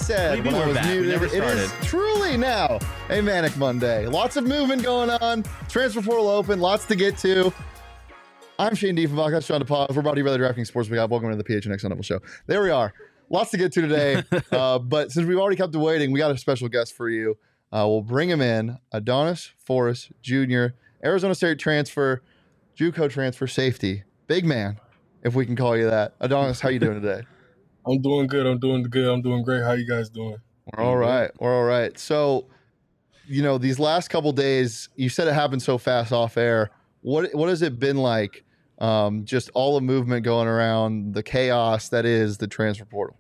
said when I was muted, it is truly now a Manic Monday. Lots of movement going on. Transfer portal open. Lots to get to. I'm Shane Diefenbach. That's Sean DePaz. We're brought to you by the DraftKings Sportsbook app. Welcome to the PHNX Level Show. There we are. Lots to get to today. But since we've already kept waiting, we got a special guest for you. We'll bring him in. Adonis Forrest Jr., Arizona State transfer, JUCO transfer safety. Big man, if we can call you that. Adonis, how you doing today? I'm doing good. I'm doing great. How you guys doing? We're all right. We're all right. So, these last couple days, you said it happened so fast off air. What has it been like? Just all the movement going around, the chaos that is the transfer portal.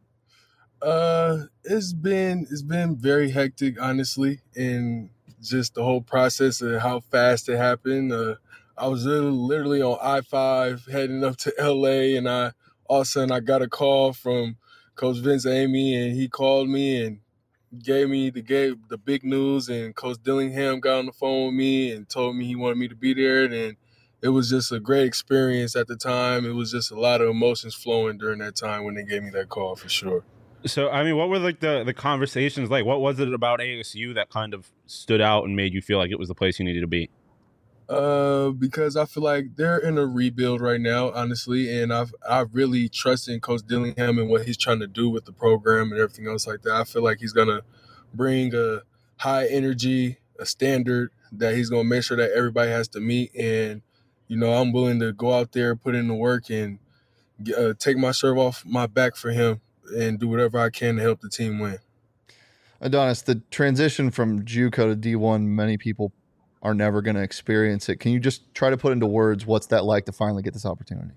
It's been very hectic, honestly, and just the whole process of how fast it happened. I was literally on I-5 heading up to LA, and all of a sudden I got a call from Coach Vince Amy, and he called me and gave the big news, and Coach Dillingham got on the phone with me and told me he wanted me to be there, and it was just a great experience at the time. It was just a lot of emotions flowing during that time when they gave me that call, for sure. So, I mean, what were like the conversations like? What was it about ASU that kind of stood out and made you feel like it was the place you needed to be? Because I feel like they're in a rebuild right now, honestly, and I really trust in Coach Dillingham and what he's trying to do with the program and everything else like that. I feel like he's gonna bring a high energy, a standard that he's gonna make sure that everybody has to meet. And I'm willing to go out there, put in the work, and take my shirt off my back for him and do whatever I can to help the team win. Adonis, the transition from JUCO to D1, many people are never going to experience it. Can you just try to put into words what's that like to finally get this opportunity?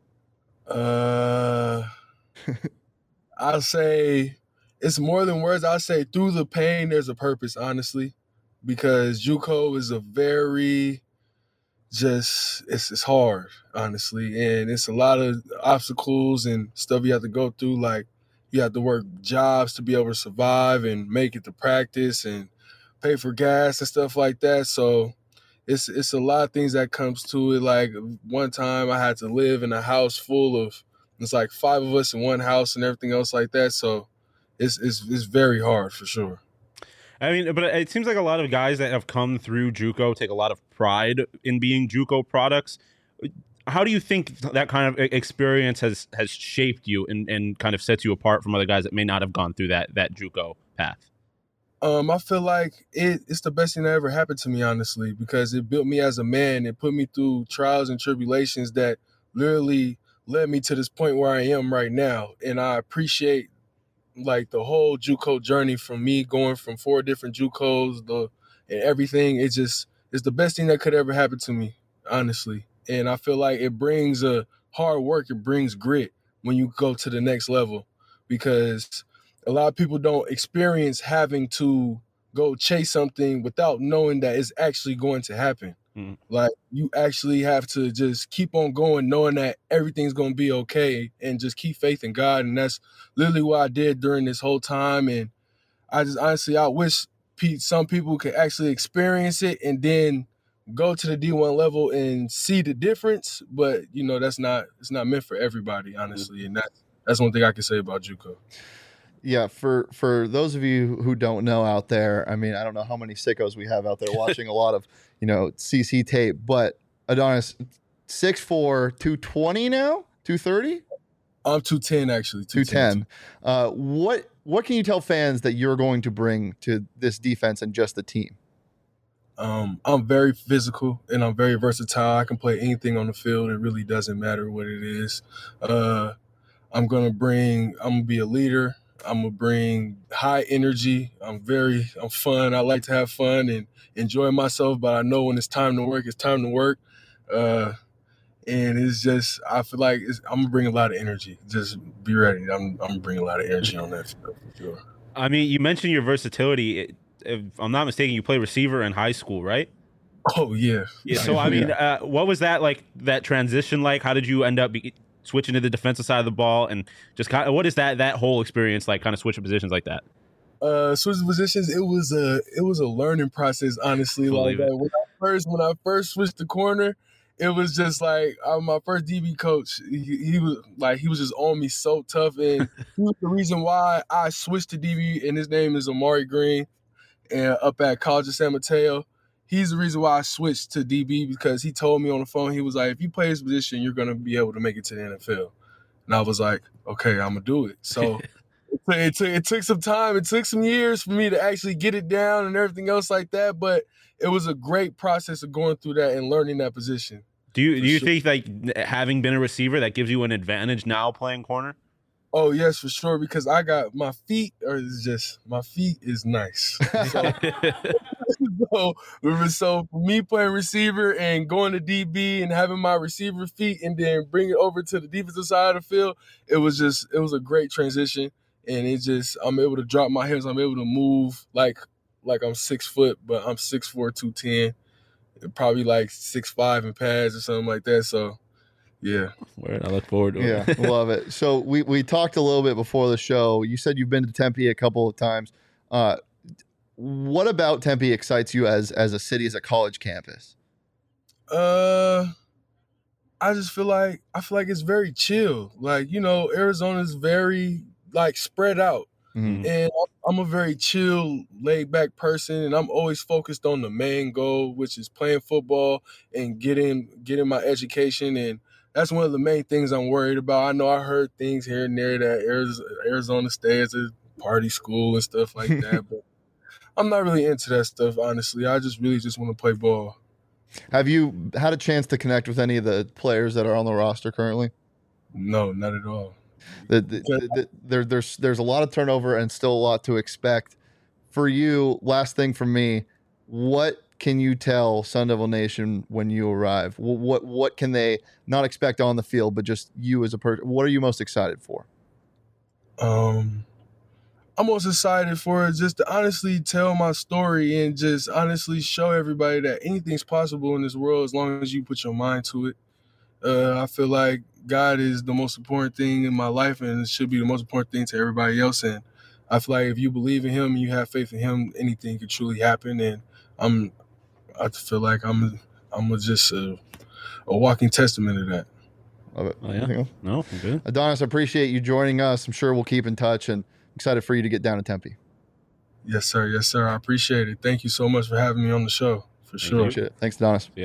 I'll say it's more than words. I'll say through the pain, there's a purpose, honestly, because JUCO is a very it's hard, honestly, and it's a lot of obstacles and stuff you have to go through. Like, you have to work jobs to be able to survive and make it to practice and pay for gas and stuff like that. So it's a lot of things that comes to it. Like, one time I had to live in a house full of, it's like 5 of us in one house and everything else like that. So it's very hard, for sure. I mean, but it seems like a lot of guys that have come through JUCO take a lot of pride in being JUCO products. How do you think that kind of experience has shaped you and kind of sets you apart from other guys that may not have gone through that JUCO path? I feel like it's the best thing that ever happened to me, honestly, because it built me as a man. It put me through trials and tribulations that literally led me to this point where I am right now. And I appreciate like the whole JUCO journey, from me going from 4 different JUCOs and everything. It's the best thing that could ever happen to me, honestly. And I feel like it brings a hard work. It brings grit when you go to the next level, because a lot of people don't experience having to go chase something without knowing that it's actually going to happen. Mm-hmm. Like, you actually have to just keep on going, knowing that everything's going to be okay, and just keep faith in God. And that's literally what I did during this whole time. And I just honestly, I wish some people could actually experience it and then go to the D1 level and see the difference. But, it's not meant for everybody, honestly. And that's one thing I can say about JUCO. Yeah, for those of you who don't know out there, I mean, I don't know how many sickos we have out there watching a lot of, CC tape, but Adonis, 6'4", 220 now? 230? I'm 210, actually. 210. What can you tell fans that you're going to bring to this defense and just the team? I'm very physical and I'm very versatile. I can play anything on the field. It really doesn't matter what it is. I'm going to be a leader. I'm going to bring high energy. I'm fun. I like to have fun and enjoy myself, but I know when it's time to work, it's time to work. And it's just, I feel like I'm going to bring a lot of energy. Just be ready. I'm going to bring a lot of energy on that field, for sure. I mean, you mentioned your versatility. If I'm not mistaken, you played receiver in high school, right? Oh, yeah. So, I mean, what was that like, that transition like? How did you end up switching to the defensive side of the ball, and just kind of, what is that whole experience like, kind of switching positions like that? Switching positions, it was a learning process, honestly. Like, when I first switched the corner, it was just like my first DB coach. He was just on me so tough, and he was the reason why I switched to DB. And his name is Amari Green, and up at College of San Mateo. He's the reason why I switched to DB because he told me on the phone, he was like, if you play this position, you're gonna be able to make it to the NFL. And I was like, okay, I'm gonna do it. So it took some time. It took some years for me to actually get it down and everything else like that. But it was a great process of going through that and learning that position. Do you think like having been a receiver that gives you an advantage now playing corner? Oh yes, for sure. Because I got my feet is nice. So for me playing receiver and going to DB and having my receiver feet and then bring it over to the defensive side of the field, it was a great transition. And I'm able to drop my hips. I'm able to move like I'm 6 foot, but I'm 6'4", 210, probably like 6'5" in pads or something like that. So, yeah. I look forward to it. Yeah, love it. So we talked a little bit before the show. You said you've been to Tempe a couple of times. What about Tempe excites you as a city, as a college campus? I feel like it's very chill. Like, Arizona's very like spread out. Mm-hmm. And I'm a very chill, laid-back person, and I'm always focused on the main goal, which is playing football and getting my education. And that's one of the main things I'm worried about. I know I heard things here and there that Arizona State is a party school and stuff like that, but I'm not really into that stuff, honestly. I really just want to play ball. Have you had a chance to connect with any of the players that are on the roster currently? No, not at all. There's a lot of turnover and still a lot to expect. For you, last thing from me, what can you tell Sun Devil Nation when you arrive? What can they not expect on the field, but just you as a person? What are you most excited for? I'm most excited for just to honestly tell my story and just honestly show everybody that anything's possible in this world as long as you put your mind to it. I feel like God is the most important thing in my life, and it should be the most important thing to everybody else. And I feel like if you believe in Him and you have faith in Him, anything could truly happen. And I feel like I'm just a walking testament of that. Love it. Oh, yeah. No, I'm good. Adonis, I appreciate you joining us. I'm sure we'll keep in touch, and excited for you to get down to Tempe. Yes, sir. Yes, sir. I appreciate it. Thank you so much for having me on the show. For sure. Appreciate it. Thanks, Adonis. Yeah.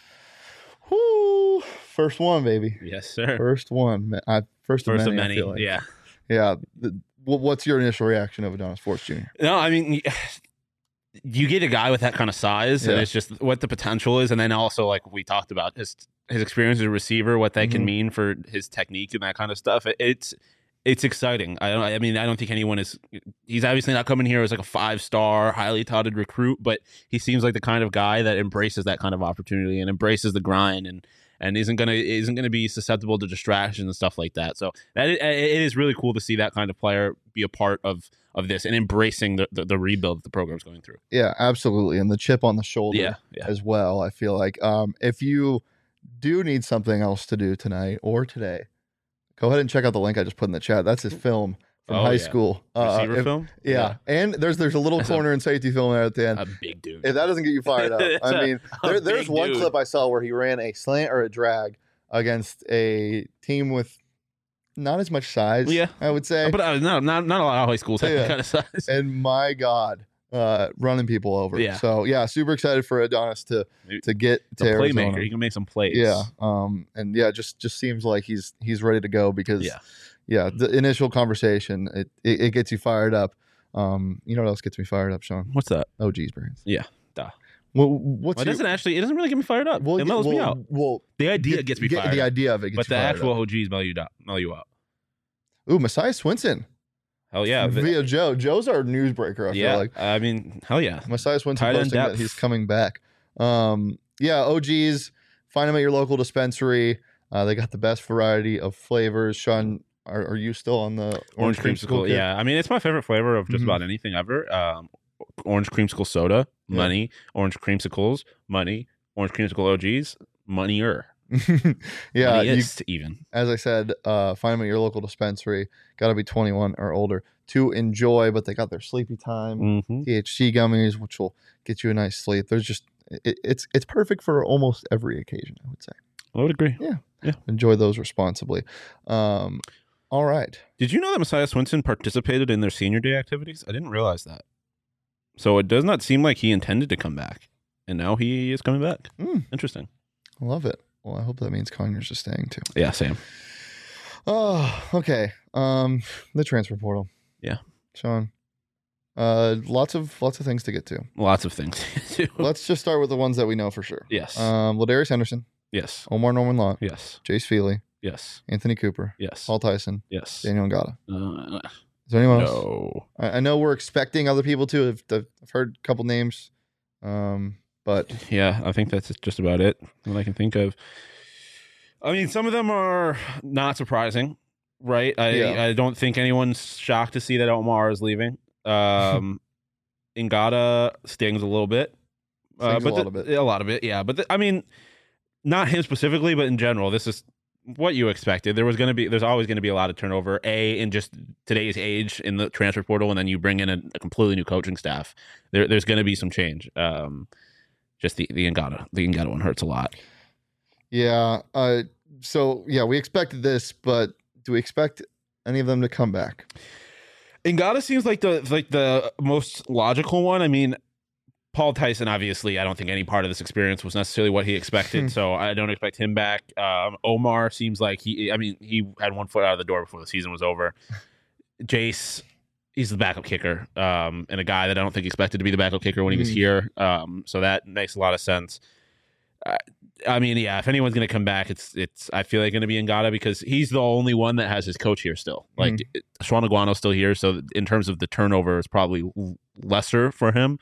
Whoo! First one, baby. Yes, sir. First one. First of many. Like. Yeah. Yeah. What's your initial reaction of Adonis Force Jr.? No, I mean, you get a guy with that kind of size, and it's just what the potential is, and then also like we talked about his experience as a receiver, what that can mean for his technique and that kind of stuff. It's exciting. I mean, I don't think anyone is. He's obviously not coming here as like a 5-star, highly touted recruit, but he seems like the kind of guy that embraces that kind of opportunity and embraces the grind and isn't gonna be susceptible to distractions and stuff like that. So it is really cool to see that kind of player be a part of this and embracing the rebuild that the program's going through. Yeah, absolutely, and the chip on the shoulder as well. I feel like if you do need something else to do tonight or today, go ahead and check out the link I just put in the chat. That's his film from high school. Receiver film? Yeah. And there's a little corner and safety film there at the end. A big dude. If that doesn't get you fired up. I mean, there's one clip I saw where he ran a slant or a drag against a team with not as much size, I would say. But not a lot of high schools have that kind of size. And my God, running people over. Yeah. So, super excited for Adonis to get to Arizona. Playmaker. He can make some plays. Yeah. And just seems like he's ready to go because the initial conversation, it gets you fired up. You know what else gets me fired up, Sean? What's that? OG's brains. Yeah. Duh. It doesn't really get me fired up. It mellows me out. Well, the idea gets me fired up. The idea of it gets you fired up. But the actual OGs mellow you out. Ooh, Messiah Swinson. Hell yeah. Via Joe. Joe's our newsbreaker, I feel like. I mean, hell yeah. Messiah Swinson posting that he's coming back. OGs, find them at your local dispensary. They got the best variety of flavors. Sean, are you still on the orange creamsicle? Yeah, I mean, it's my favorite flavor of just about anything ever. Orange creamsicle soda, money. Orange creamsicles, money. Orange creamsicle OGs, money-er. Even. As I said, find them at your local dispensary. Got to be 21 or older to enjoy, but they got their sleepy time THC gummies, which will get you a nice sleep. There's just it's perfect for almost every occasion, I would say. I would agree. Yeah. Enjoy those responsibly. All right. Did you know that Messiah Swinson participated in their senior day activities? I didn't realize that. So it does not seem like he intended to come back, and now he is coming back. Interesting. I love it. Well, I hope that means Conyers is staying too. Yeah, same. Oh, okay. The transfer portal. Yeah, Sean. Lots of things to get to. Lots of things to do. Let's just start with the ones that we know for sure. Yes. Ladarius Henderson. Yes. Omar Norman Law. Yes. Jace Feely. Yes. Anthony Cooper. Yes. Paul Tyson. Yes. Daniel Ngata. Is there anyone else? No. I know we're expecting other people to. I've heard a couple names. But yeah, I think that's just about it that I can think of. I mean, some of them are not surprising, right? I don't think anyone's shocked to see that Omar is leaving. Ngata stings a little bit. A lot of it, yeah. But I mean, not him specifically, but in general, this is what you expected. There's always going to be a lot of turnover. In just today's age in the transfer portal, and then you bring in a completely new coaching staff. There's going to be some change. Just the Ngata one hurts a lot. Yeah. So yeah, we expected this, but do we expect any of them to come back? Ngata seems like the most logical one. I mean, Paul Tyson, obviously, I don't think any part of this experience was necessarily what he expected, so I don't expect him back. Omar seems like he had one foot out of the door before the season was over. Jace, he's the backup kicker, and a guy that I don't think expected to be the backup kicker when he was here. So that makes a lot of sense. I mean, yeah, if anyone's going to come back, it's I feel like going to be Ngata because he's the only one that has his coach here still. Like Sean Aguano's still here, so in terms of the turnover, it's probably lesser for him.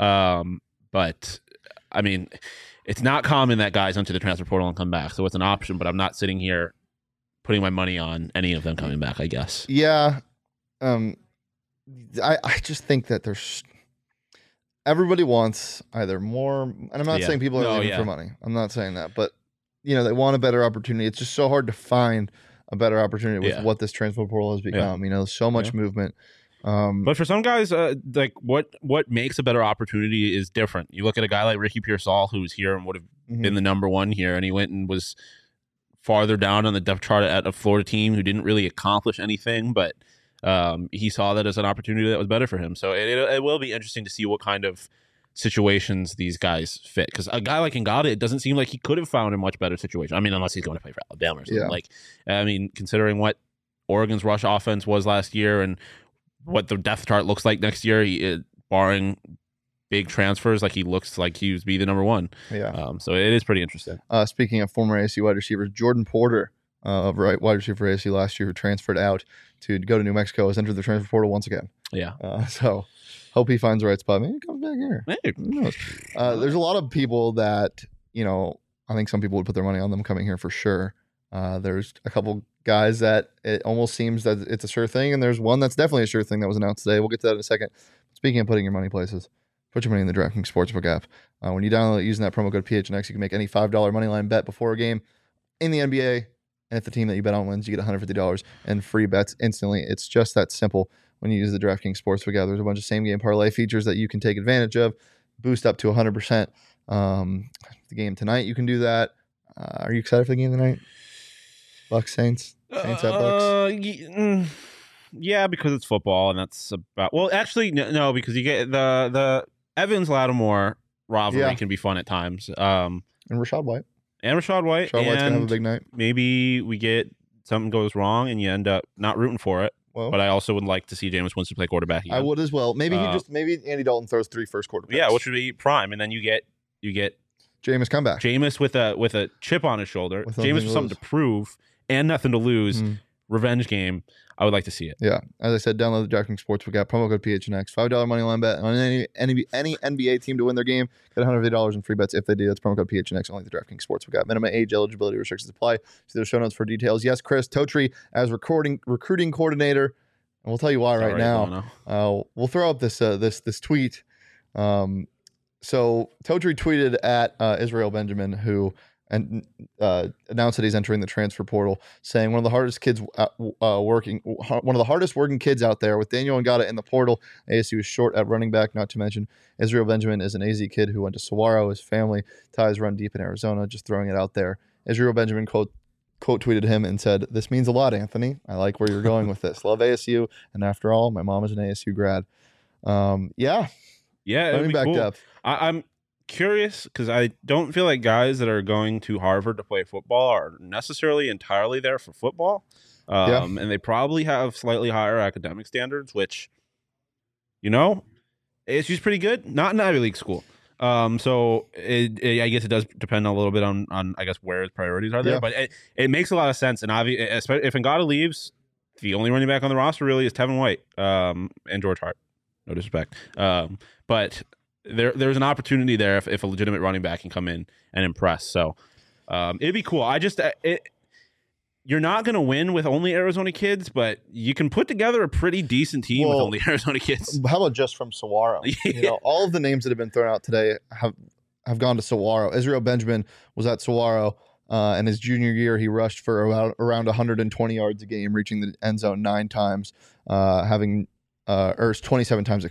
But I mean, it's not common that guys enter the transfer portal and come back, so it's an option. But I'm not sitting here putting my money on any of them coming back, I guess. Yeah, I just think that there's. Everybody wants either more, and I'm not saying people are leaving for money. I'm not saying that, but they want a better opportunity. It's just so hard to find a better opportunity with what this transfer portal has become. So much movement. But for some guys, like what makes a better opportunity is different. You look at a guy like Ricky Pearsall, who was here and would have been the number one here, and he went and was farther down on the depth chart at a Florida team who didn't really accomplish anything, but he saw that as an opportunity that was better for him. So it will be interesting to see what kind of situations these guys fit. Because a guy like Ngata, it doesn't seem like he could have found a much better situation. I mean, unless he's going to play for Alabama or something. Yeah. Considering what Oregon's rush offense was last year and what the depth chart looks like next year, barring big transfers, he looks like he would be the number one. Yeah. So it is pretty interesting. Speaking of former ASU wide receivers, Jordan Porter, wide receiver for ASU last year, who transferred out to go to New Mexico, has entered the transfer portal once again. Yeah. So hope he finds the right spot. Maybe he comes back here. Maybe. Who knows? There's a lot of people that, I think some people would put their money on them coming here for sure. There's a couple guys that it almost seems that it's a sure thing, and there's one that's definitely a sure thing that was announced today. We'll get to that in a second. Speaking of putting your money places, put your money in the DraftKings Sportsbook app. When you download it using that promo code PHNX, you can make any $5 moneyline bet before a game in the NBA. And if the team that you bet on wins, you get $150 and free bets instantly. It's just that simple when you use the DraftKings Sportsbook app. There's a bunch of same-game parlay features that you can take advantage of, boost up to 100%. The game tonight, you can do that. Are you excited for the game tonight? Bucks, Saints? Saints at Bucks? Yeah, because it's football, and that's about... Well, actually, no, because you get the Evans-Lattimore rivalry can be fun at times. And Rachaad White. Rachaad White's going to have a big night. Maybe we get something goes wrong and you end up not rooting for it. Well, but I also would like to see Jameis Winston play quarterback again. I would as well. Maybe maybe Andy Dalton throws 3 first quarter picks. Yeah, which would be prime. And then you get Jameis comeback. Jameis with a chip on his shoulder. Jameis with something to prove and nothing to lose. Revenge game. I would like to see it. Yeah. As I said, download the DraftKings Sportsbook app. Promo code PHNX. $5 money line bet on any NBA team to win their game. Get $150 in free bets if they do. That's promo code PHNX. Only the DraftKings Sportsbook app. Minimum age, eligibility restrictions apply. See the show notes for details. Yes, Chris Totri as recruiting coordinator. And we'll tell you why right now. We'll throw up this tweet. So Totri tweeted at Israel Benjamin, who announced that he's entering the transfer portal, saying one of the hardest working kids out there with Daniel Ngata in the portal. ASU is short at running back, not to mention Israel Benjamin is an AZ kid who went to Saguaro. His family ties run deep in Arizona. Just throwing it out there. Israel Benjamin quote tweeted him and said, "This means a lot, Anthony. I like where you're going with this. Love ASU, and after all, my mom is an ASU grad." Yeah, it'd be back cool. depth. I'm curious because I don't feel like guys that are going to Harvard to play football are necessarily entirely there for football. And they probably have slightly higher academic standards, which, ASU's pretty good. Not an Ivy League school. So I guess it does depend a little bit on I guess where his priorities are there, but it makes a lot of sense. And especially if Ngata leaves, the only running back on the roster really is Tevin White and George Hart. No disrespect, but there's an opportunity there if a legitimate running back can come in and impress. So it'd be cool. You're not going to win with only Arizona kids, but you can put together a pretty decent team with only Arizona kids. How about just from Saguaro? All of the names that have been thrown out today have gone to Saguaro. Israel Benjamin was at Saguaro, and his junior year he rushed for around 120 yards a game, reaching the end zone 9 times, or 27 times,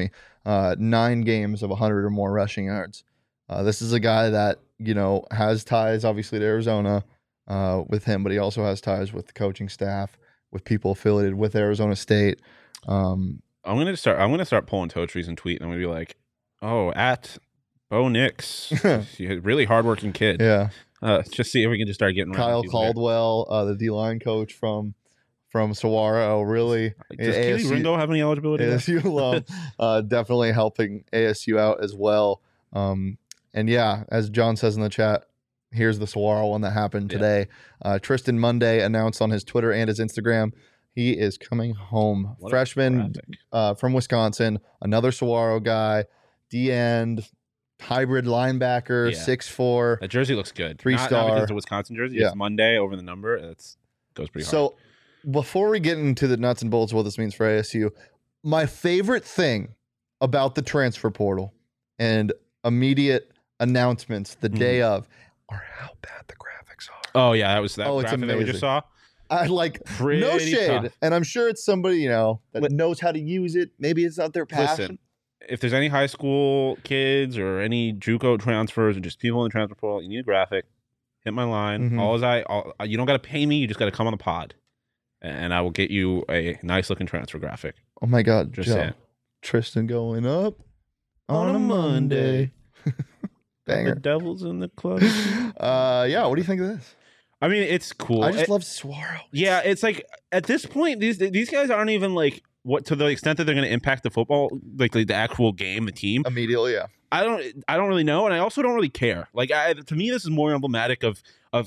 9 games of 100 or more rushing yards. This is a guy that has ties obviously to Arizona. With him, but he also has ties with the coaching staff, with people affiliated with Arizona State. I'm gonna start pulling toe trees and tweet, and I'm gonna be like, "Oh, at Bo Nix, really hardworking kid." Yeah. Just see if we can just start getting Kyle Caldwell, the D-line coach from Saguaro. Really, does Keely Ringo have any eligibility? ASU alum, definitely helping ASU out as well. And yeah, as John says in the chat. Here's the Saguaro one that happened today. Tristan Monday announced on his Twitter and his Instagram he is coming home. Freshman from Wisconsin, another Saguaro guy, D-end, hybrid linebacker, 6'4". That jersey looks good. 3-star. Not because it's a Wisconsin jersey. It's Monday over the number. It goes pretty hard. So before we get into the nuts and bolts of what this means for ASU, my favorite thing about the transfer portal and immediate announcements the day of are how bad the graphics are. Oh yeah, that was that graphic amazing. that we just saw. I like Pretty no shade, tough. and I'm sure it's somebody that knows how to use it. Maybe it's not their passion. Listen, if there's any high school kids or any JUCO transfers or just people in the transfer portal, you need a graphic. Hit my line. Mm-hmm. You don't got to pay me. You just got to come on the pod, and I will get you a nice looking transfer graphic. Oh my God, just Joe. saying. Tristan going up on a Monday. Banger. The Devils in the club. Yeah. What do you think of this? I mean, it's cool. I just love Saguaro. Yeah, it's like at this point, these guys aren't even like what to the extent that they're going to impact the football, like the actual game, the team immediately. Yeah. I don't really know, and I also don't really care. Like to me, this is more emblematic of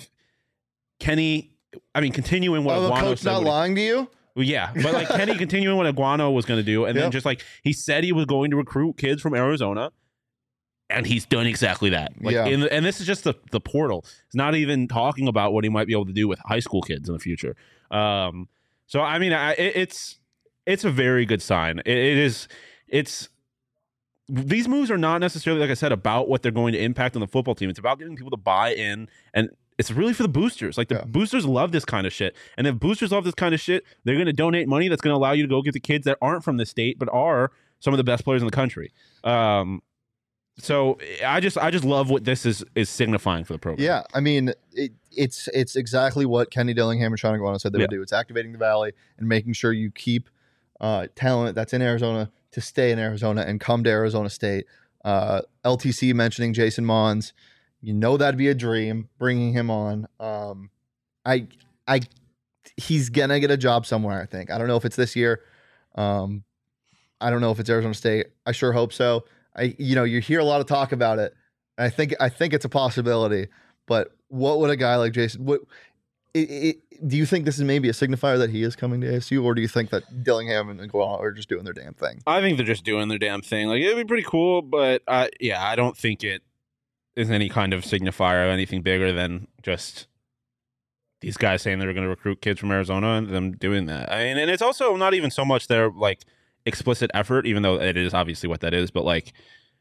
Kenny. I mean, continuing what the Aguano coach said. Not lying to you. Well, yeah, but like Kenny continuing what Aguano was going to do, and then just like he said he was going to recruit kids from Arizona. And he's done exactly that. And this is just the portal. It's not even talking about what he might be able to do with high school kids in the future. So I mean, it's a very good sign. It's these moves are not necessarily, like I said, about what they're going to impact on the football team. It's about getting people to buy in, and it's really for the boosters. Like the boosters love this kind of shit, and if boosters love this kind of shit, they're going to donate money that's going to allow you to go get the kids that aren't from the state but are some of the best players in the country. So I just love what this is signifying for the program. Yeah, I mean, it's exactly what Kenny Dillingham and Sean Aguano said they would do. It's activating the Valley and making sure you keep talent that's in Arizona to stay in Arizona and come to Arizona State. LTC mentioning Jason Mons, that'd be a dream. Bringing him on, he's gonna get a job somewhere. I think. I don't know if it's this year. I don't know if it's Arizona State. I sure hope so. You hear a lot of talk about it. And I think it's a possibility. But what would a guy like Jason? Do you think this is maybe a signifier that he is coming to ASU, or do you think that Dillingham and Aguano are just doing their damn thing? I think they're just doing their damn thing. Like it'd be pretty cool, but I don't think it is any kind of signifier of anything bigger than just these guys saying they're going to recruit kids from Arizona and them doing that. I mean, and it's also not even so much their like explicit effort, even though it is obviously what that is, but like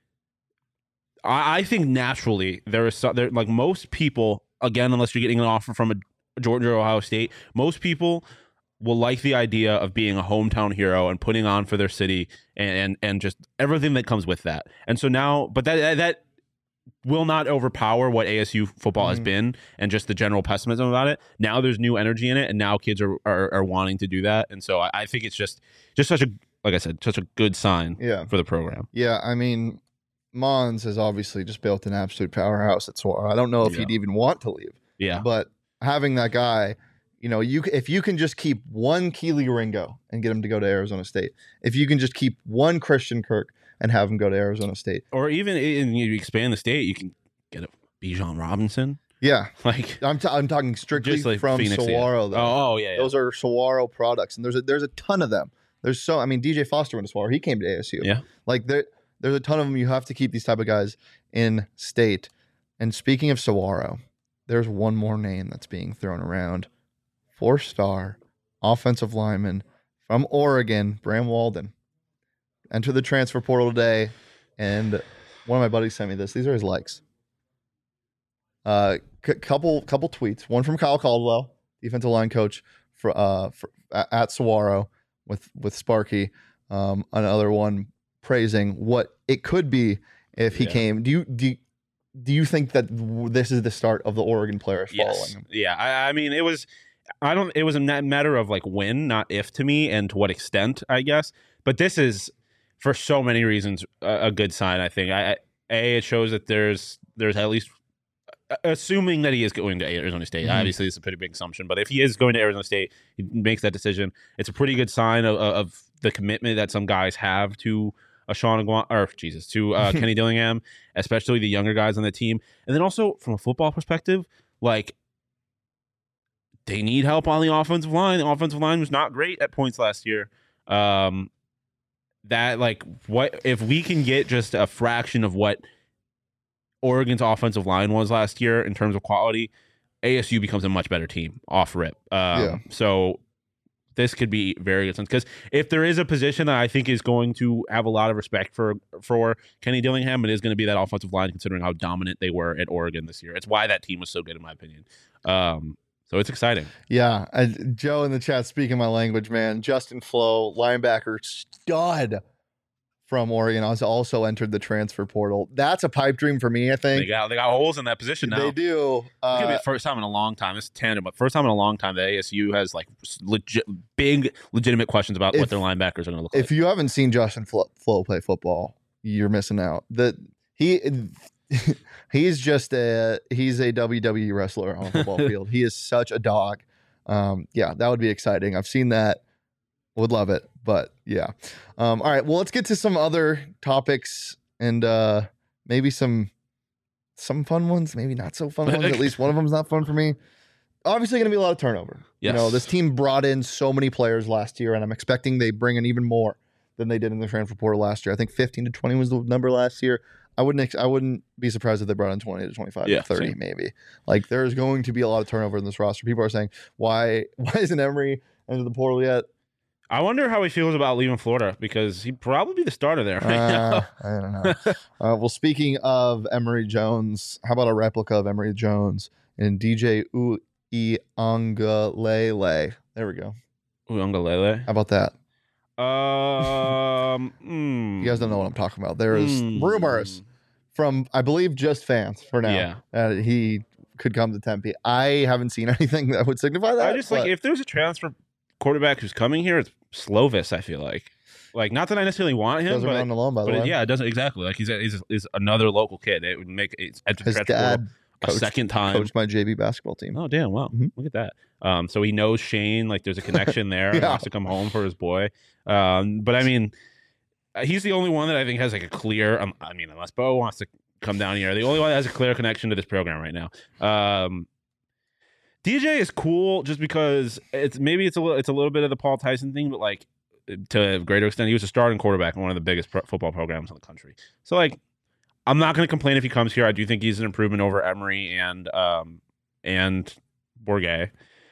I think naturally there like most people, again, unless you're getting an offer from a Georgia or Ohio State, most people will like the idea of being a hometown hero and putting on for their city and just everything that comes with that. And so now, but that will not overpower what ASU football has been and just the general pessimism about it. Now there's new energy in it, and now kids are wanting to do that. And so I think it's just such a, like I said, such a good sign for the program. Yeah, I mean, Mons has obviously just built an absolute powerhouse at Saguaro. I don't know if he'd even want to leave. Yeah. But having that guy, you know, if you can just keep one Keely Ringo and get him to go to Arizona State, if you can just keep one Christian Kirk and have him go to Arizona State, or even you expand the state, you can get a Bijan Robinson. Yeah, like I'm talking strictly like from Phoenix, Saguaro. Though. Oh yeah, those are Saguaro products, and there's a ton of them. I mean, DJ Foster went to Saguaro. He came to ASU. Yeah, like there's a ton of them. You have to keep these type of guys in state. And speaking of Saguaro, there's one more name that's being thrown around. 4-star offensive lineman from Oregon, Bram Walden, entered the transfer portal today, and one of my buddies sent me this. These are his likes. Couple tweets. One from Kyle Caldwell, defensive line coach at Saguaro with Sparky. Another one praising what it could be if he came. Do you think that this is the start of the Oregon players following him? Yeah, I mean, it was a matter of like when, not if to me, and to what extent, I guess. But this is, for so many reasons, a good sign, I think. It shows that there's at least, assuming that he is going to Arizona State. Obviously, it's a pretty big assumption, but if he is going to Arizona State, he makes that decision. It's a pretty good sign of the commitment that some guys have to Kenny Dillingham, especially the younger guys on the team. And then also from a football perspective, like, they need help on the offensive line. The offensive line was not great at points last year. What if we can get just a fraction of what Oregon's offensive line was last year in terms of quality, ASU becomes a much better team off rip. So this could be very good sense, because if there is a position that I think is going to have a lot of respect for Kenny Dillingham, it is going to be that offensive line, considering how dominant they were at Oregon this year. It's why that team was so good, in my opinion. So it's exciting. Yeah. Joe in the chat, speaking my language, man. Justin Flo, linebacker stud from Oregon, has also entered the transfer portal. That's a pipe dream for me, I think. They got holes in that position now. They do. It's going to be the first time in a long time. It's tandem, but first time in a long time that ASU has like legitimate questions about what their linebackers are going to look like. If you haven't seen Justin Flo play football, you're missing out. He's a WWE wrestler on a football field. He is such a dog. Yeah, that would be exciting. I've seen that. Would love it. But yeah. All right. Well, let's get to some other topics and maybe some fun ones, maybe not so fun ones. At least one of them's not fun for me. Obviously going to be a lot of turnover. Yes. You know, this team brought in so many players last year, and I'm expecting they bring in even more than they did in the transfer portal last year. I think 15 to 20 was the number last year. I wouldn't be surprised if they brought in 20 to 25 to 30 maybe. Like, there's going to be a lot of turnover in this roster. People are saying, why isn't Emory into the portal yet? I wonder how he feels about leaving Florida, because he'd probably be the starter there right now. I don't know. Well, speaking of Emory Jones, how about a replica of Emory Jones and DJ Uiagalelei? There we go. Uiagalelei? How about that? You guys don't know what I'm talking about. There is rumors from, I believe, Just Fans for now that he could come to Tempe. I haven't seen anything that would signify that. I just like, if there's a transfer quarterback who's coming here, it's Slovis. I feel like not that I necessarily want him, doesn't run alone, by the way. Yeah, it doesn't exactly. Like he's another local kid. It would make his dad a second time coached my JV basketball team. Oh damn! Wow, look at that. So he knows Shane. Like there's a connection there. He wants to come home for his boy. But I mean, he's the only one that I think has like a clear. I mean, unless Bo wants to come down here, the only one that has a clear connection to this program right now. DJ is cool just because it's a little bit of the Paul Tyson thing, but like to a greater extent, he was a starting quarterback in one of the biggest football programs in the country. So like, I'm not going to complain if he comes here. I do think he's an improvement over Emory and Bourget.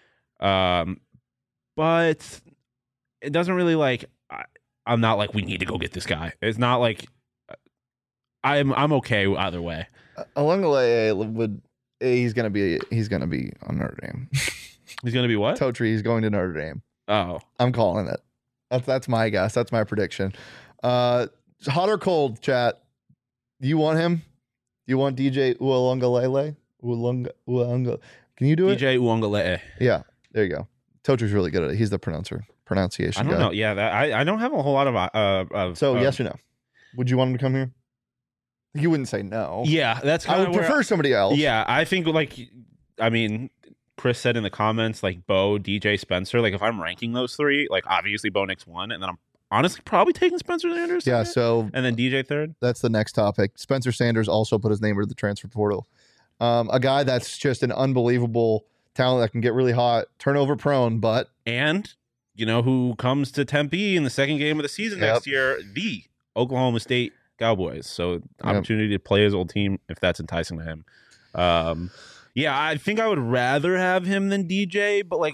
But it doesn't really like. I'm not like we need to go get this guy. It's not like I'm okay either way. Uiagalelei he's gonna be on Notre Dame. He's gonna be what? Totri. He's going to Notre Dame. Oh, I'm calling it. That's my guess. That's my prediction. Hot or cold, chat? Do you want him? you want DJ Ualungalele? Ualunga. Can you do it? DJ Uongalele. Yeah, there you go. Tochu's really good at it. He's the pronunciation I don't guy. know. Yeah, I don't have a whole lot of. So yes or no? Would you want him to come here? You wouldn't say no. Yeah, that's. I would prefer somebody else. Yeah, I think Chris said in the comments Bo, DJ, Spencer. If I'm ranking those three, obviously Bo Nix 1, and then I'm honestly probably taking Spencer Sanders. Yeah. So and then DJ third. That's the next topic. Spencer Sanders also put his name into the transfer portal. A guy that's just an unbelievable talent that can get really hot, turnover prone, but who comes to Tempe in the second game of the season next year? The Oklahoma State Cowboys. So opportunity to play his old team if that's enticing to him. Yeah, I think I would rather have him than DJ, but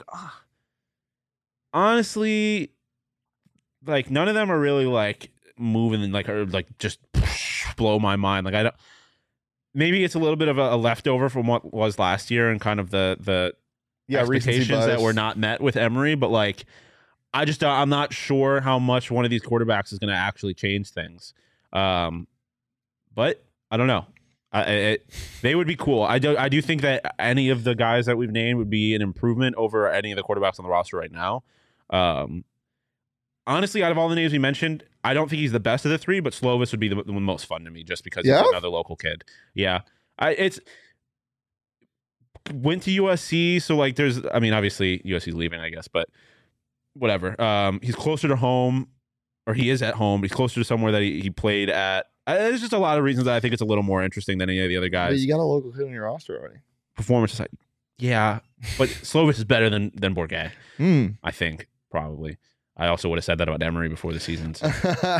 honestly, none of them are really moving and or just blow my mind. I don't. Maybe it's a little bit of a leftover from what was last year and kind of the expectations that were not met with Emory, but I'm not sure how much one of these quarterbacks is going to actually change things. But I don't know. They would be cool. I do think that any of the guys that we've named would be an improvement over any of the quarterbacks on the roster right now. Honestly, out of all the names we mentioned, I don't think he's the best of the three, but Slovis would be the most fun to me just because he's another local kid. Yeah. Went to USC, so obviously USC's leaving, I guess, but whatever. He's closer to home, or he is at home. He's closer to somewhere that he played at. There's just a lot of reasons that I think it's a little more interesting than any of the other guys. But you got a local kid on your roster already. Performance is yeah, but Slovis is better than Bourget. I think probably. I also would have said that about Emory before the season. So.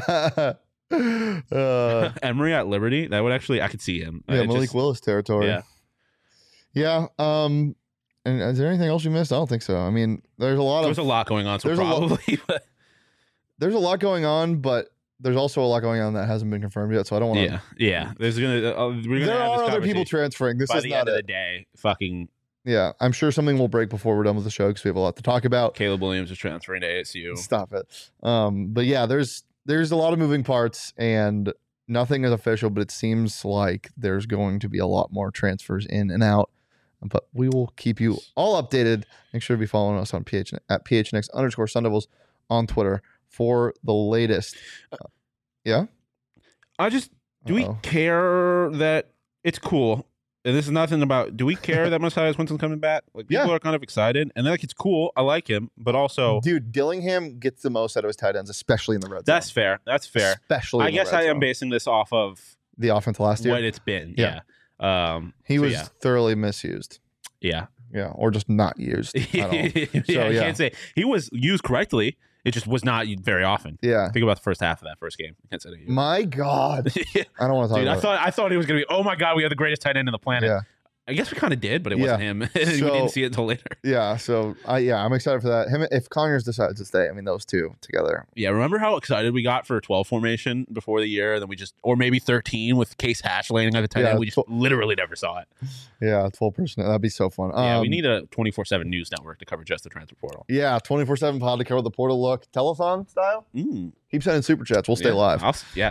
Emory at Liberty, that would actually, I could see him. Yeah, Malik Willis territory. Yeah. Yeah. And is there anything else you missed? I don't think so. I mean, there's a lot going on. So probably. There's a lot going on, but there's also a lot going on that hasn't been confirmed yet. So I don't want to. Yeah. There's there are other people transferring. This is by the not end of the day. Fucking. Yeah, I'm sure something will break before we're done with the show because we have a lot to talk about. Caleb Williams is transferring to ASU. Stop it. But yeah, there's a lot of moving parts and nothing is official, but it seems like there's going to be a lot more transfers in and out. But we will keep you all updated. Make sure to be following us on at PHNX_Sun Devils on Twitter for the latest. Yeah? Do we care that it's cool? And this is nothing about, do we care that Mosiah Winston's coming back? People are kind of excited. And it's cool. I like him. But also... Dude, Dillingham gets the most out of his tight ends, especially in the red zone. That's fair. Especially I guess I am basing this off of... the offense last year? What it's been. Yeah. He was thoroughly misused. Yeah. Yeah. Or just not used. I can't say. He was used correctly. It just was not very often. Yeah. Think about the first half of that first game. My God. I don't want to talk about it. I thought it was going to be, oh my God, we have the greatest tight end on the planet. Yeah. I guess we kind of did, but it wasn't him. We didn't see it until later. Yeah. So, I'm excited for that. If Conyers decides to stay, those two together. Yeah. Remember how excited we got for 12 formation before the year? And then or maybe 13 with Case Hatch landing at the tight end. We just literally never saw it. Yeah. 12 personnel. That'd be so fun. We need a 24/7 news network to cover just the transfer portal. Yeah. 24/7 pod to cover the portal look. Telethon style. Keep sending super chats. We'll stay live.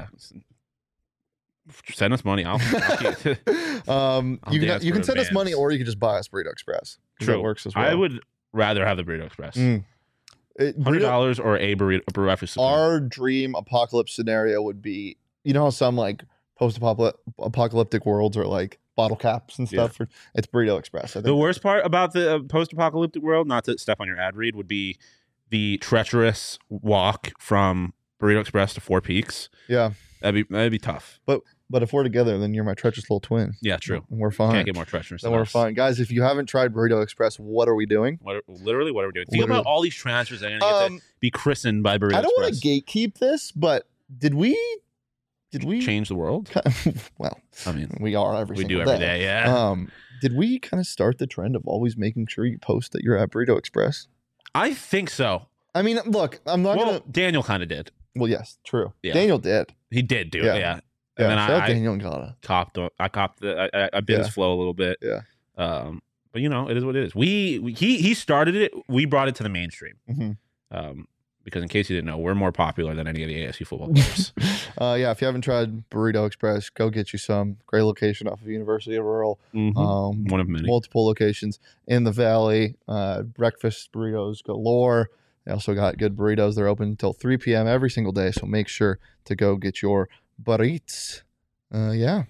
Send us money. I'll you can send us money, or you can just buy us Burrito Express. True, that works as well. I would rather have the Burrito Express. $100 or a breakfast. Our dream apocalypse scenario would be, how some post-apocalyptic worlds are bottle caps and stuff. It's Burrito Express. I think the worst part about the post-apocalyptic world, not to step on your ad read, would be the treacherous walk from Burrito Express to Four Peaks. Yeah, that'd be tough. But if we're together, then you're my treacherous little twin. Yeah, true. And we're fine. Can't get more treacherous. Then we're fine, guys. If you haven't tried Burrito Express, what are we doing? What are we doing? Think about all these transfers that are going to get to be christened by Burrito Express. I don't want to gatekeep this, but did we change the world? Well, we are we do every day. Yeah. Did we kind of start the trend of always making sure you post that you're at Burrito Express? I think so. Look, I'm not gonna. Daniel kind of did. Well, yes, true. Yeah. Daniel did. He did do it. Yeah. And then Daniel and I copped I bit his flow a little bit. Yeah. But it is what it is. He started it. We brought it to the mainstream. Mm-hmm. because in case you didn't know, we're more popular than any of the ASU football players. Yeah, if you haven't tried Burrito Express, go get you some. Great location off of University of Rural. One of many. Multiple locations in the Valley. Breakfast burritos galore. They also got good burritos. They're open until 3 p.m. every single day, so make sure to go get your burritos. Yeah.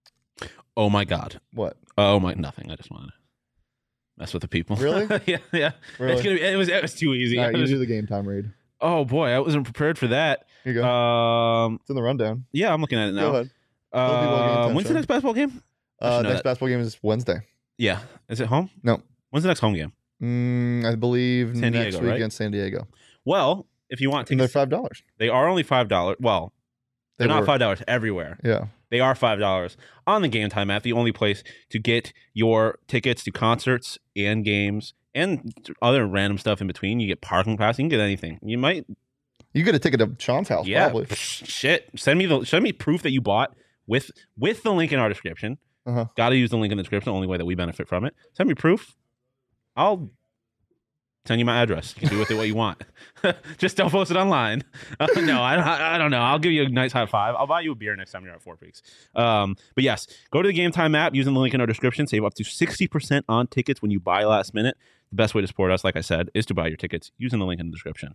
Oh my God. What? Oh my, nothing. I just wanted to mess with the people. Really? yeah. Really? It was too easy. All right, you do the game time read. Oh boy, I wasn't prepared for that. Here you go. It's in the rundown. Yeah, I'm looking at it now. Go ahead. When's the next basketball game? Next basketball game is Wednesday. Yeah. Is it home? No. When's the next home game? I believe San next Diego, week right? against San Diego. Well, if you want And they're tickets, $5. they are only $5. Well, they're not $5 everywhere. Yeah. They are $5 on the Game Time app, the only place to get your tickets to concerts and games and other random stuff in between. You get parking pass. You can get anything. You get a ticket to Sean's house, probably. Shit. Send me proof that you bought with the link in our description. Got to use the link in the description. The only way that we benefit from it. Send me proof. I'll send you my address. You can do with it what you want. Just don't post it online. No, I don't know. I'll give you a nice high five. I'll buy you a beer next time you're at Four Peaks. But yes, go to the Game Time app using the link in our description. Save up to 60% on tickets when you buy last minute. The best way to support us, like I said, is to buy your tickets using the link in the description.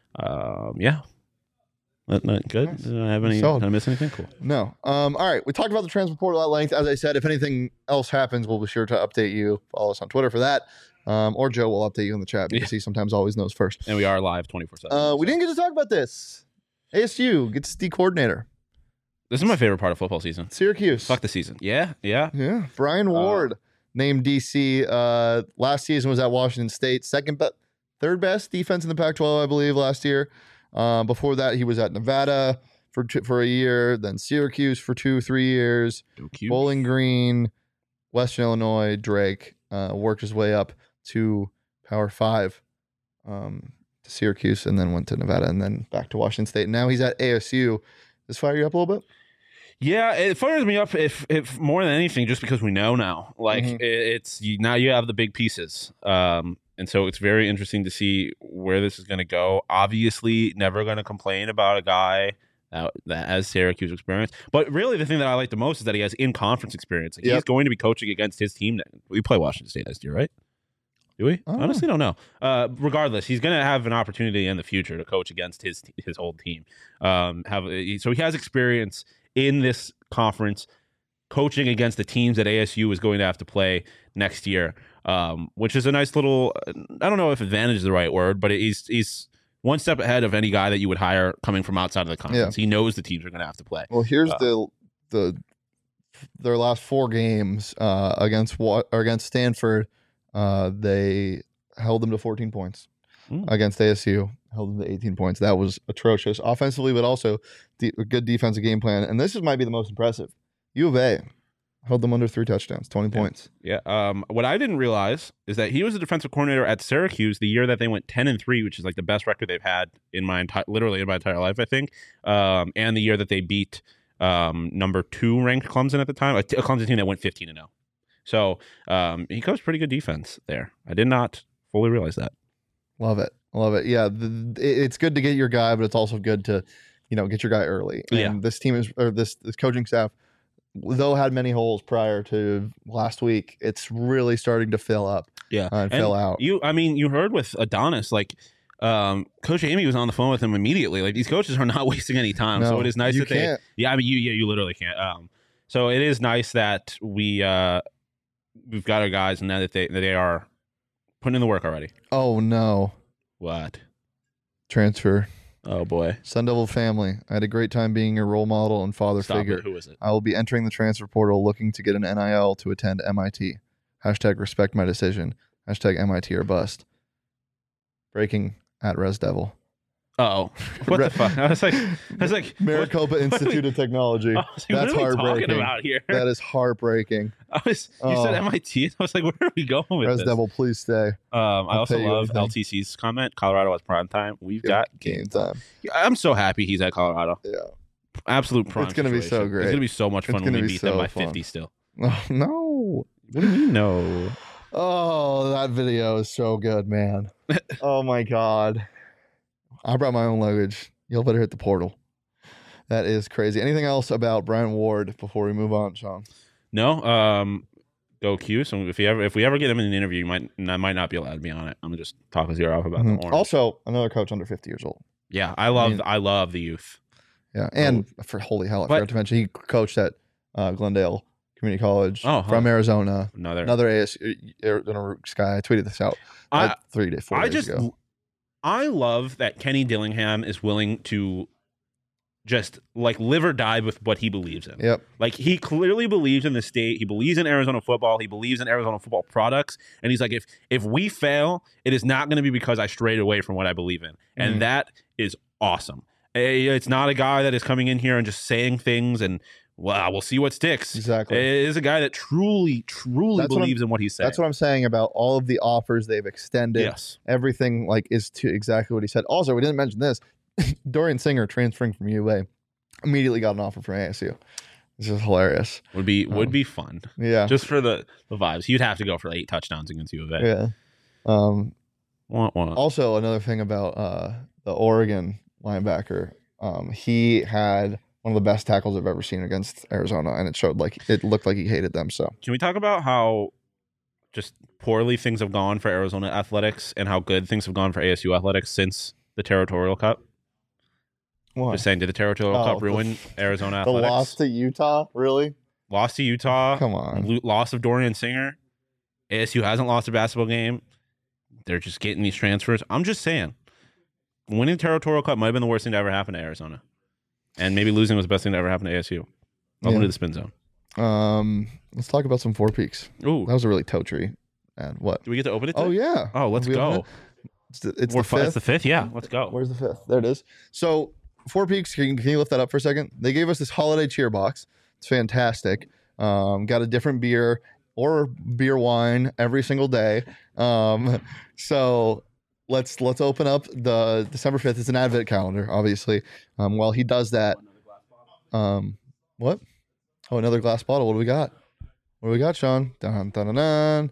Yeah. Good. Nice. Did I miss anything? Cool. No. All right. We talked about the transfer portal at length. As I said, if anything else happens, we'll be sure to update you. Follow us on Twitter for that. Or Joe will update you in the chat because he sometimes always knows first. And we are live 24/7. We didn't get to talk about this. ASU gets D coordinator. This is my favorite part of football season. Syracuse. Fuck the season. Yeah. Brian Ward named DC. Last season was at Washington State. Third best defense in the Pac-12, I believe, last year. Before that, he was at Nevada for a year, then Syracuse for 2-3 years, Bowling Green, Western Illinois, Drake. Worked his way up to Power 5 to Syracuse, and then went to Nevada, and then back to Washington State. Now he's at ASU. Does this fire you up a little bit? Yeah, it fires me up if more than anything, just because we know now. Like now you have the big pieces. And so it's very interesting to see where this is going to go. Obviously, never going to complain about a guy that has Syracuse experience. But really, the thing that I like the most is that he has in-conference experience. Like, he's going to be coaching against his team. We play Washington State next year, right? Do we? Honestly, don't know. Regardless, he's going to have an opportunity in the future to coach against his old team. So he has experience in this conference coaching against the teams that ASU is going to have to play next year. Which is a nice little, I don't know if advantage is the right word, but he's one step ahead of any guy that you would hire coming from outside of the conference. He knows the teams are going to have to play. Well, here's their last 4 games against Stanford. They held them to 14 points. Against ASU, held them to 18 points. That was atrocious offensively, but also a good defensive game plan. And this might be the most impressive. U of A held them under 3 touchdowns, 20 points. Yeah. What I didn't realize is that he was the defensive coordinator at Syracuse the year that they went 10-3, which is like the best record they've had in my entire life, I think. And the year that they beat number 2 ranked Clemson at the time, a Clemson team that went 15-0. So he coached pretty good defense there. I did not fully realize that. Love it. Yeah, it's good to get your guy, but it's also good to, get your guy early. And this team this coaching staff, though had many holes prior to last week, it's really starting to fill up. And fill out. You heard with Adonis, like Coach Amy was on the phone with him immediately. Like, these coaches are not wasting any time. No, so it is nice that can't. You literally can't. So it is nice that we've got our guys and that they are putting in the work already. Oh no. What? Transfer. Oh boy. Sun Devil family. I had a great time being your role model and father figure. Who is it? I will be entering the transfer portal looking to get an NIL to attend MIT. #respect my decision. #MIT or bust. Breaking at Res Devil. Oh, what the fuck? I was like Maricopa Institute of Technology. That's what are we talking about here? That is heartbreaking. You said MIT. I was like, where are we going with Res this? Devil, please stay. I also love LTC's comment. Colorado has prime time. We've got game time. I'm so happy he's at Colorado. Yeah, absolute prime. It's gonna be so great. It's gonna be so much fun when we beat them by 50 still. Oh, no. What do you mean no? Oh, that video is so good, man. Oh my god. I brought my own luggage. Y'all better hit the portal. That is crazy. Anything else about Brian Ward before we move on, Sean? No. Go Q. So if we ever get him in an interview, I might not be allowed to be on it. I'm gonna just talk his ear off about the orange. Also, another coach under 50 years old. Yeah, I love the youth. Yeah, and for holy hell, I forgot to mention he coached at Glendale Community College from Arizona. Another ASU Arizona Rooks guy. I tweeted this out 4 days ago. I love that Kenny Dillingham is willing to just like live or die with what he believes in. Yep. Like he clearly believes in the state. He believes in Arizona football. He believes in Arizona football products. And he's like, if we fail, it is not going to be because I strayed away from what I believe in. And that is awesome. It's not a guy that is coming in here and just saying things and we'll see what sticks. Exactly. It is a guy that truly believes in what he's saying. That's what I'm saying about all of the offers they've extended. Yes. Everything is to exactly what he said. Also, we didn't mention this. Dorian Singer transferring from UA immediately got an offer from ASU. This is hilarious. Would be fun. Yeah. Just for the vibes. You'd have to go for 8 touchdowns against U of A. Yeah. Also, another thing about the Oregon linebacker, he had one of the best tackles I've ever seen against Arizona, and it looked like he hated them. So can we talk about how just poorly things have gone for Arizona athletics and how good things have gone for ASU athletics since the Territorial Cup? What? Just saying, did the Territorial Cup ruin Arizona athletics? The loss to Utah? Really? Lost to Utah. Come on. Loss of Dorian Singer. ASU hasn't lost a basketball game. They're just getting these transfers. I'm just saying, winning the Territorial Cup might have been the worst thing to ever happen to Arizona. And maybe losing was the best thing to ever happen to ASU. Welcome to the Spin Zone. Let's talk about some Four Peaks. Ooh. That was a really toe tree. And what? Do we get to open it today? Oh, yeah. Oh, let's go. It's the 5th. It's the 5th, yeah. Let's go. Where's the 5th? There it is. So, Four Peaks, can you lift that up for a second? They gave us this holiday cheer box. It's fantastic. Got a different beer or beer wine every single day. So let's open up the December 5th. It's an advent calendar, obviously. While he does that, what? Oh, another glass bottle. What do we got? What do we got, Sean? Dun, dun, dun, dun.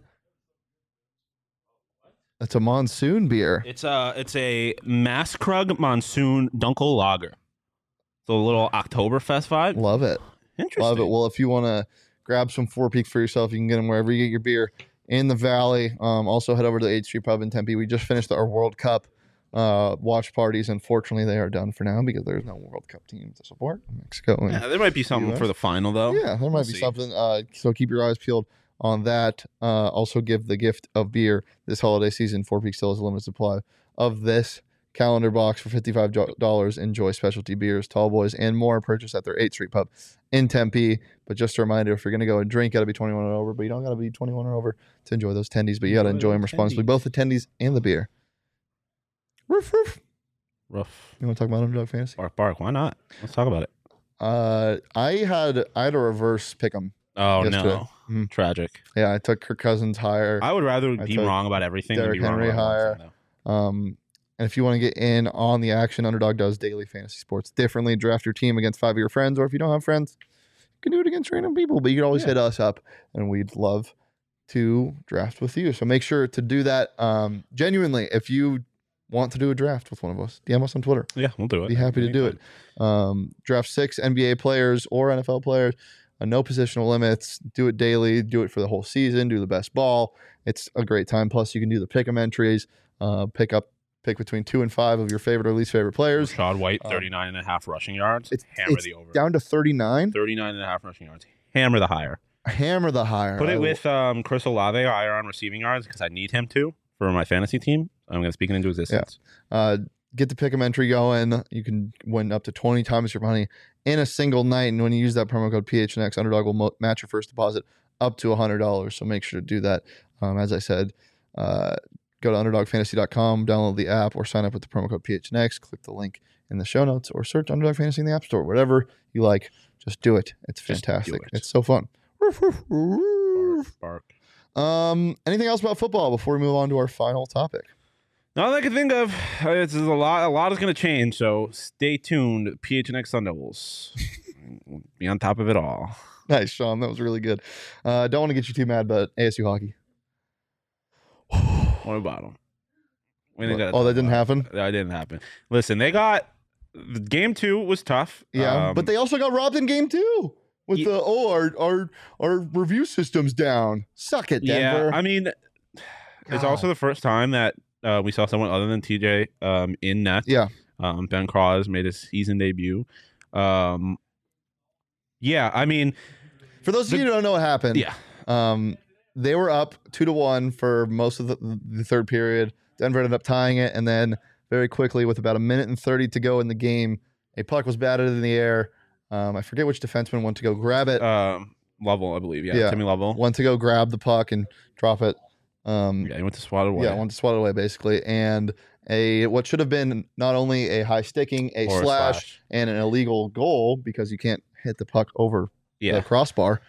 It's a monsoon beer. It's a Maskrug Monsoon Dunkel Lager. So a little Oktoberfest vibe. Love it. Interesting. Love it. Well, if you want to grab some Four Peaks for yourself, you can get them wherever you get your beer in the Valley. Also, head over to the 8th Street Pub in Tempe. We just finished our World Cup watch parties. Unfortunately, they are done for now because there's no World Cup team to support Mexico. Yeah, there might be something for the final, though. Yeah, there might be something. So keep your eyes peeled on that. Also give the gift of beer this holiday season. Four Peaks still has a limited supply of this calendar box for $55. Enjoy specialty beers, tall boys, and more. Purchase at their 8th Street Pub in Tempe. But just a reminder, if you're going to go and drink, got to be 21 or over. But you don't got to be 21 or over to enjoy those tendies. But you got to enjoy them responsibly, both the tendies and the beer. Roof, roof. Rough. You want to talk about Underdog Fantasy? Bark. Why not? Let's talk about it. I had a reverse pick 'em. Oh, no. Mm-hmm. Tragic. Yeah, I took Kirk Cousins higher. I would rather be wrong about everything than be wrong Henry about higher. And if you want to get in on the action, Underdog does daily fantasy sports differently. Draft your team against 5 of your friends, or if you don't have friends, you can do it against random people. But you can always hit us up, and we'd love to draft with you. So make sure to do that. Genuinely, if you want to do a draft with one of us, DM us on Twitter. Yeah, we'll do it. Be happy to do it. Draft 6 NBA players or NFL players. No positional limits. Do it daily. Do it for the whole season. Do the best ball. It's a great time. Plus, you can do the pick 'em entries. Pick between 2 and 5 of your favorite or least favorite players. Rashad White, 39.5 rushing yards. Hammer the over. Down to 39. 39.5 rushing yards. Hammer the higher. Hammer the higher. Put it with Chris Olave higher on receiving yards because I need him to for my fantasy team. I'm going to speak it into existence. Yeah. Get the pick 'em entry going. You can win up to 20 times your money in a single night. And when you use that promo code PHNX, Underdog will match your first deposit up to $100. So make sure to do that. As I said, go to UnderdogFantasy.com, download the app, or sign up with the promo code PHNX. Click the link in the show notes, or search Underdog Fantasy in the App Store. Whatever you like, just do it. It's fantastic. It's so fun. Bark. Anything else about football before we move on to our final topic? Not that I can think of. It's a lot is going to change, so stay tuned. PHNX Sun Devils. We'll be on top of it all. Nice, Sean. That was really good. Don't want to get you too mad, but ASU hockey. What about them? Oh, that didn't happen? That didn't happen. Listen, they got game 2 was tough. Yeah, but they also got robbed in game 2 with our review system's down. Suck it, Denver. Yeah, I mean, it's also the first time that we saw someone other than TJ in net. Yeah. Ben Cross made his season debut. Yeah, I mean, for those of you who don't know what happened, they were up 2-1 for most of the third period. Denver ended up tying it, and then very quickly, with about 1:30 to go in the game, a puck was batted in the air. I forget which defenseman went to go grab it. Lovell, I believe. Yeah, Timmy Lovell went to go grab the puck and drop it. He went to swat it away. Yeah, went to swat it away basically, and what should have been not only a high sticking, a slash, and an illegal goal because you can't hit the puck over the crossbar.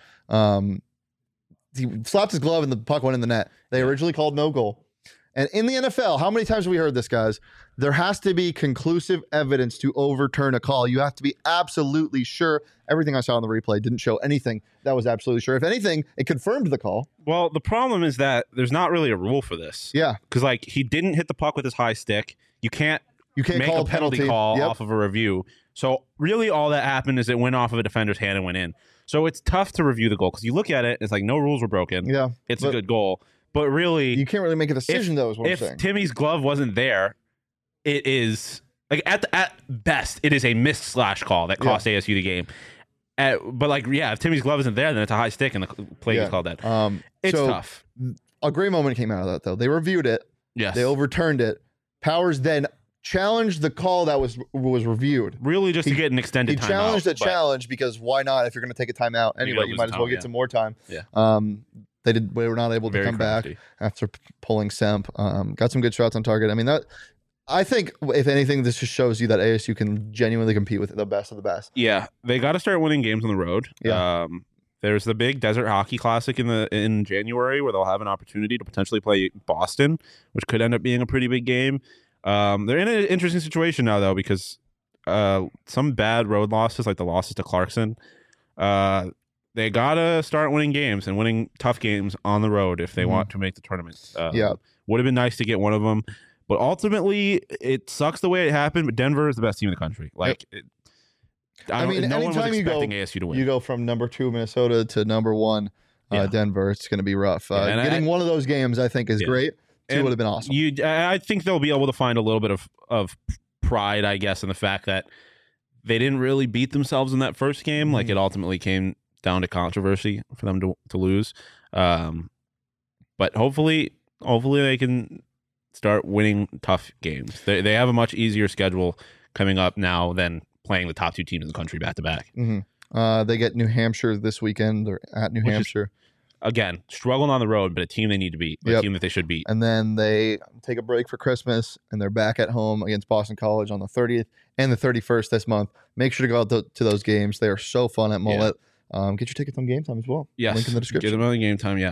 He slapped his glove and the puck went in the net. They originally called no goal. And in the NFL, how many times have we heard this, guys? There has to be conclusive evidence to overturn a call. You have to be absolutely sure. Everything I saw on the replay didn't show anything that was absolutely sure. If anything, it confirmed the call. Well, the problem is that there's not really a rule for this. Yeah. Because, like, he didn't hit the puck with his high stick. You can't make call a penalty call off of a review. So, really, all that happened is it went off of a defender's hand and went in. So, it's tough to review the goal because you look at it, it's like no rules were broken. Yeah. It's a good goal. But really, you can't really make a decision, though, is what I'm saying. If Timmy's glove wasn't there, it is like at best, it is a missed slash call that cost ASU the game. But like, if Timmy's glove isn't there, then it's a high stick and the play gets called dead. It's tough. A great moment came out of that, though. They reviewed it. Yes. They overturned it. Powers then challenged the call that was reviewed. Really, just to get an extended timeout. He challenged the challenge because why not? If you're going to take a timeout anyway, you might as well get some more time. Yeah. They were not able to come back after pulling Semp. Got some good shots on target. I mean, I think if anything, this just shows you that ASU can genuinely compete with the best of the best. Yeah, they got to start winning games on the road. Yeah. There's the big Desert Hockey Classic in January where they'll have an opportunity to potentially play Boston, which could end up being a pretty big game. They're in an interesting situation now though because some bad road losses, like the losses to Clarkson. They gotta start winning games and winning tough games on the road if they want to make the tournament. Would have been nice to get one of them, but ultimately it sucks the way it happened. But Denver is the best team in the country. Like, I mean, no one was anytime expecting ASU to win. You go from number 2 Minnesota to number 1 Denver. It's going to be rough. Getting one of those games, I think, is great. It would have been awesome. I think they'll be able to find a little bit of pride, I guess, in the fact that they didn't really beat themselves in that first game. Like it ultimately came down to controversy for them to lose. But hopefully they can start winning tough games. They have a much easier schedule coming up now than playing the top 2 teams in the country back to back. They get New Hampshire this weekend. They're at New Hampshire. Again, struggling on the road, but a team they need to beat, a team that they should beat. And then they take a break for Christmas, and they're back at home against Boston College on the 30th and the 31st this month. Make sure to go out to those games. They are so fun at Mullet. Get your tickets on Game Time as well. Yes. Link in the description. Get them on Game Time,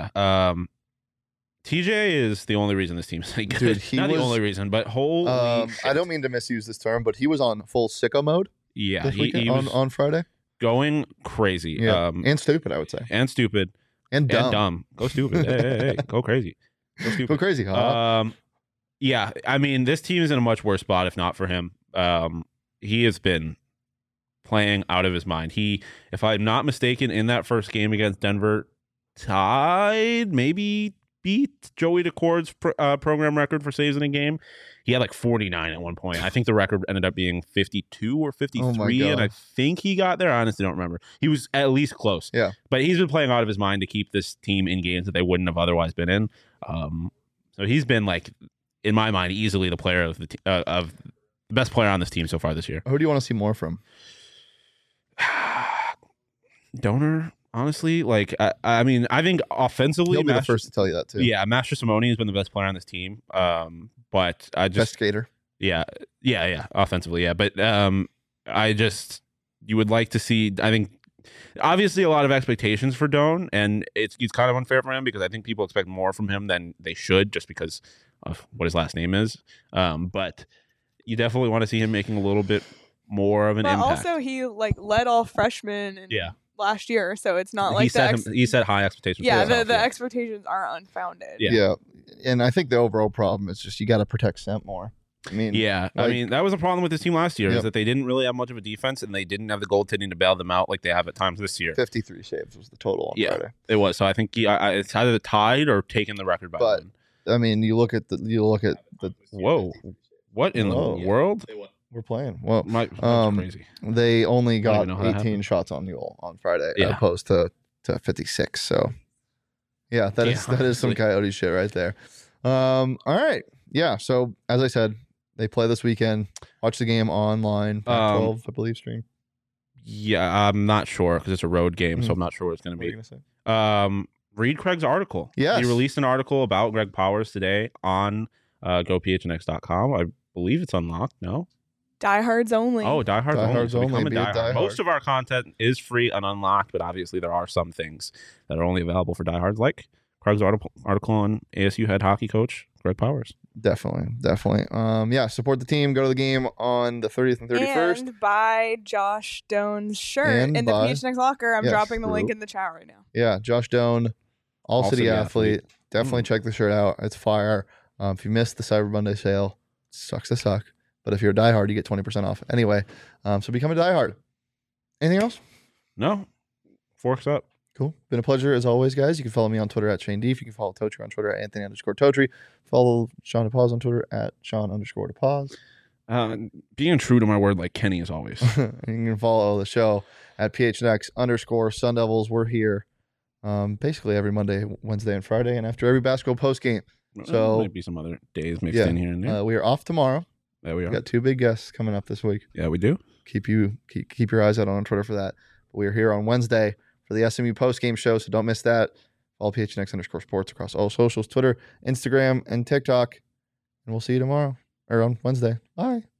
TJ is the only reason this team's good. Dude, Not the only reason, but holy I don't mean to misuse this term, but he was on full sicko mode this weekend, he was on Friday. Going crazy. Yeah. And stupid, I would say. And stupid. And dumb. Go stupid. hey. Go crazy. Go stupid. Go crazy, huh? Yeah, I mean, this team is in a much worse spot if not for him. He has been playing out of his mind. He, if I'm not mistaken, in that first game against Denver, tied, maybe beat Joey DeCord's program record for saves in a game. He had like 49 at one point. I think the record ended up being 52 or 53, and I think he got there. I honestly don't remember. He was at least close. Yeah. But he's been playing out of his mind to keep this team in games that they wouldn't have otherwise been in. So he's been, like, in my mind, easily the player of the best player on this team so far this year. Who do you want to see more from? Donor, honestly. Like, I mean, I think offensively, He'll be the first to tell you that too. Yeah, Master Simone has been the best player on this team. But I just best skater. Yeah, offensively, yeah. But you would like to see. I think obviously a lot of expectations for Doan, and it's kind of unfair for him because I think people expect more from him than they should just because of what his last name is. But you definitely want to see him making a little bit more of an impact. Also, he led all freshmen and last year, so it's not like he set high expectations. Yeah, for the expectations are unfounded. Yeah, and I think the overall problem is just you got to protect Sent more. I mean, that was a problem with this team last year, Yep. is that they didn't really have much of a defense, and they didn't have the goaltending to bail them out like they have at times this year. 53 saves was the total on Friday. It was. So I think it's either tied or taken the record by one. I mean, you look at the. Whoa, what in the world? We're playing. Well, that's crazy. They only got know how that 18 happened. shots on goal on Friday, as opposed to 56. So, yeah, that is some Coyote shit right there. All right, yeah. So as I said, they play this weekend. Watch the game online. Pac-12, I believe, stream. Yeah, I'm not sure because it's a road game, so I'm not sure what it's going to be. What are you gonna say? Read Craig's article. Yes. He released an article about Greg Powers today on gophnx.com. I believe it's unlocked. No. Diehards only. Oh, diehards only. So become a diehard. diehard. Most of our content is free and unlocked, but obviously there are some things that are only available for diehards, like Craig's article on ASU head hockey coach Greg Powers. Definitely. Yeah, support the team. Go to the game on the 30th and 31st. And buy Josh Doan's shirt in the PHNX locker. I'm dropping the link in the chat right now. Yeah, Josh Doan, All City Athlete. Definitely check the shirt out. It's fire. If you missed the Cyber Monday sale, sucks to suck. But if you're a diehard, you get 20% off. Anyway, so become a diehard. Anything else? No. Forks up. Cool. Been a pleasure as always, guys. You can follow me on Twitter at Shane Deef. You can follow Totri on Twitter at Anthony_Totri. Follow Sean DePaz on Twitter at Sean_DePaz. Being true to my word like Kenny as always. You can follow the show at PHNX_Sun Devils. We're here basically every Monday, Wednesday, and Friday, and after every basketball post game. So might be some other days mixed in here and there. We are off tomorrow. There we are. We got 2 big guests coming up this week. Yeah, we do. Keep your eyes out on Twitter for that. But we are here on Wednesday for the SMU post game show, so don't miss that. Follow PHNX_sports across all socials, Twitter, Instagram, and TikTok. And we'll see you tomorrow or on Wednesday. Bye.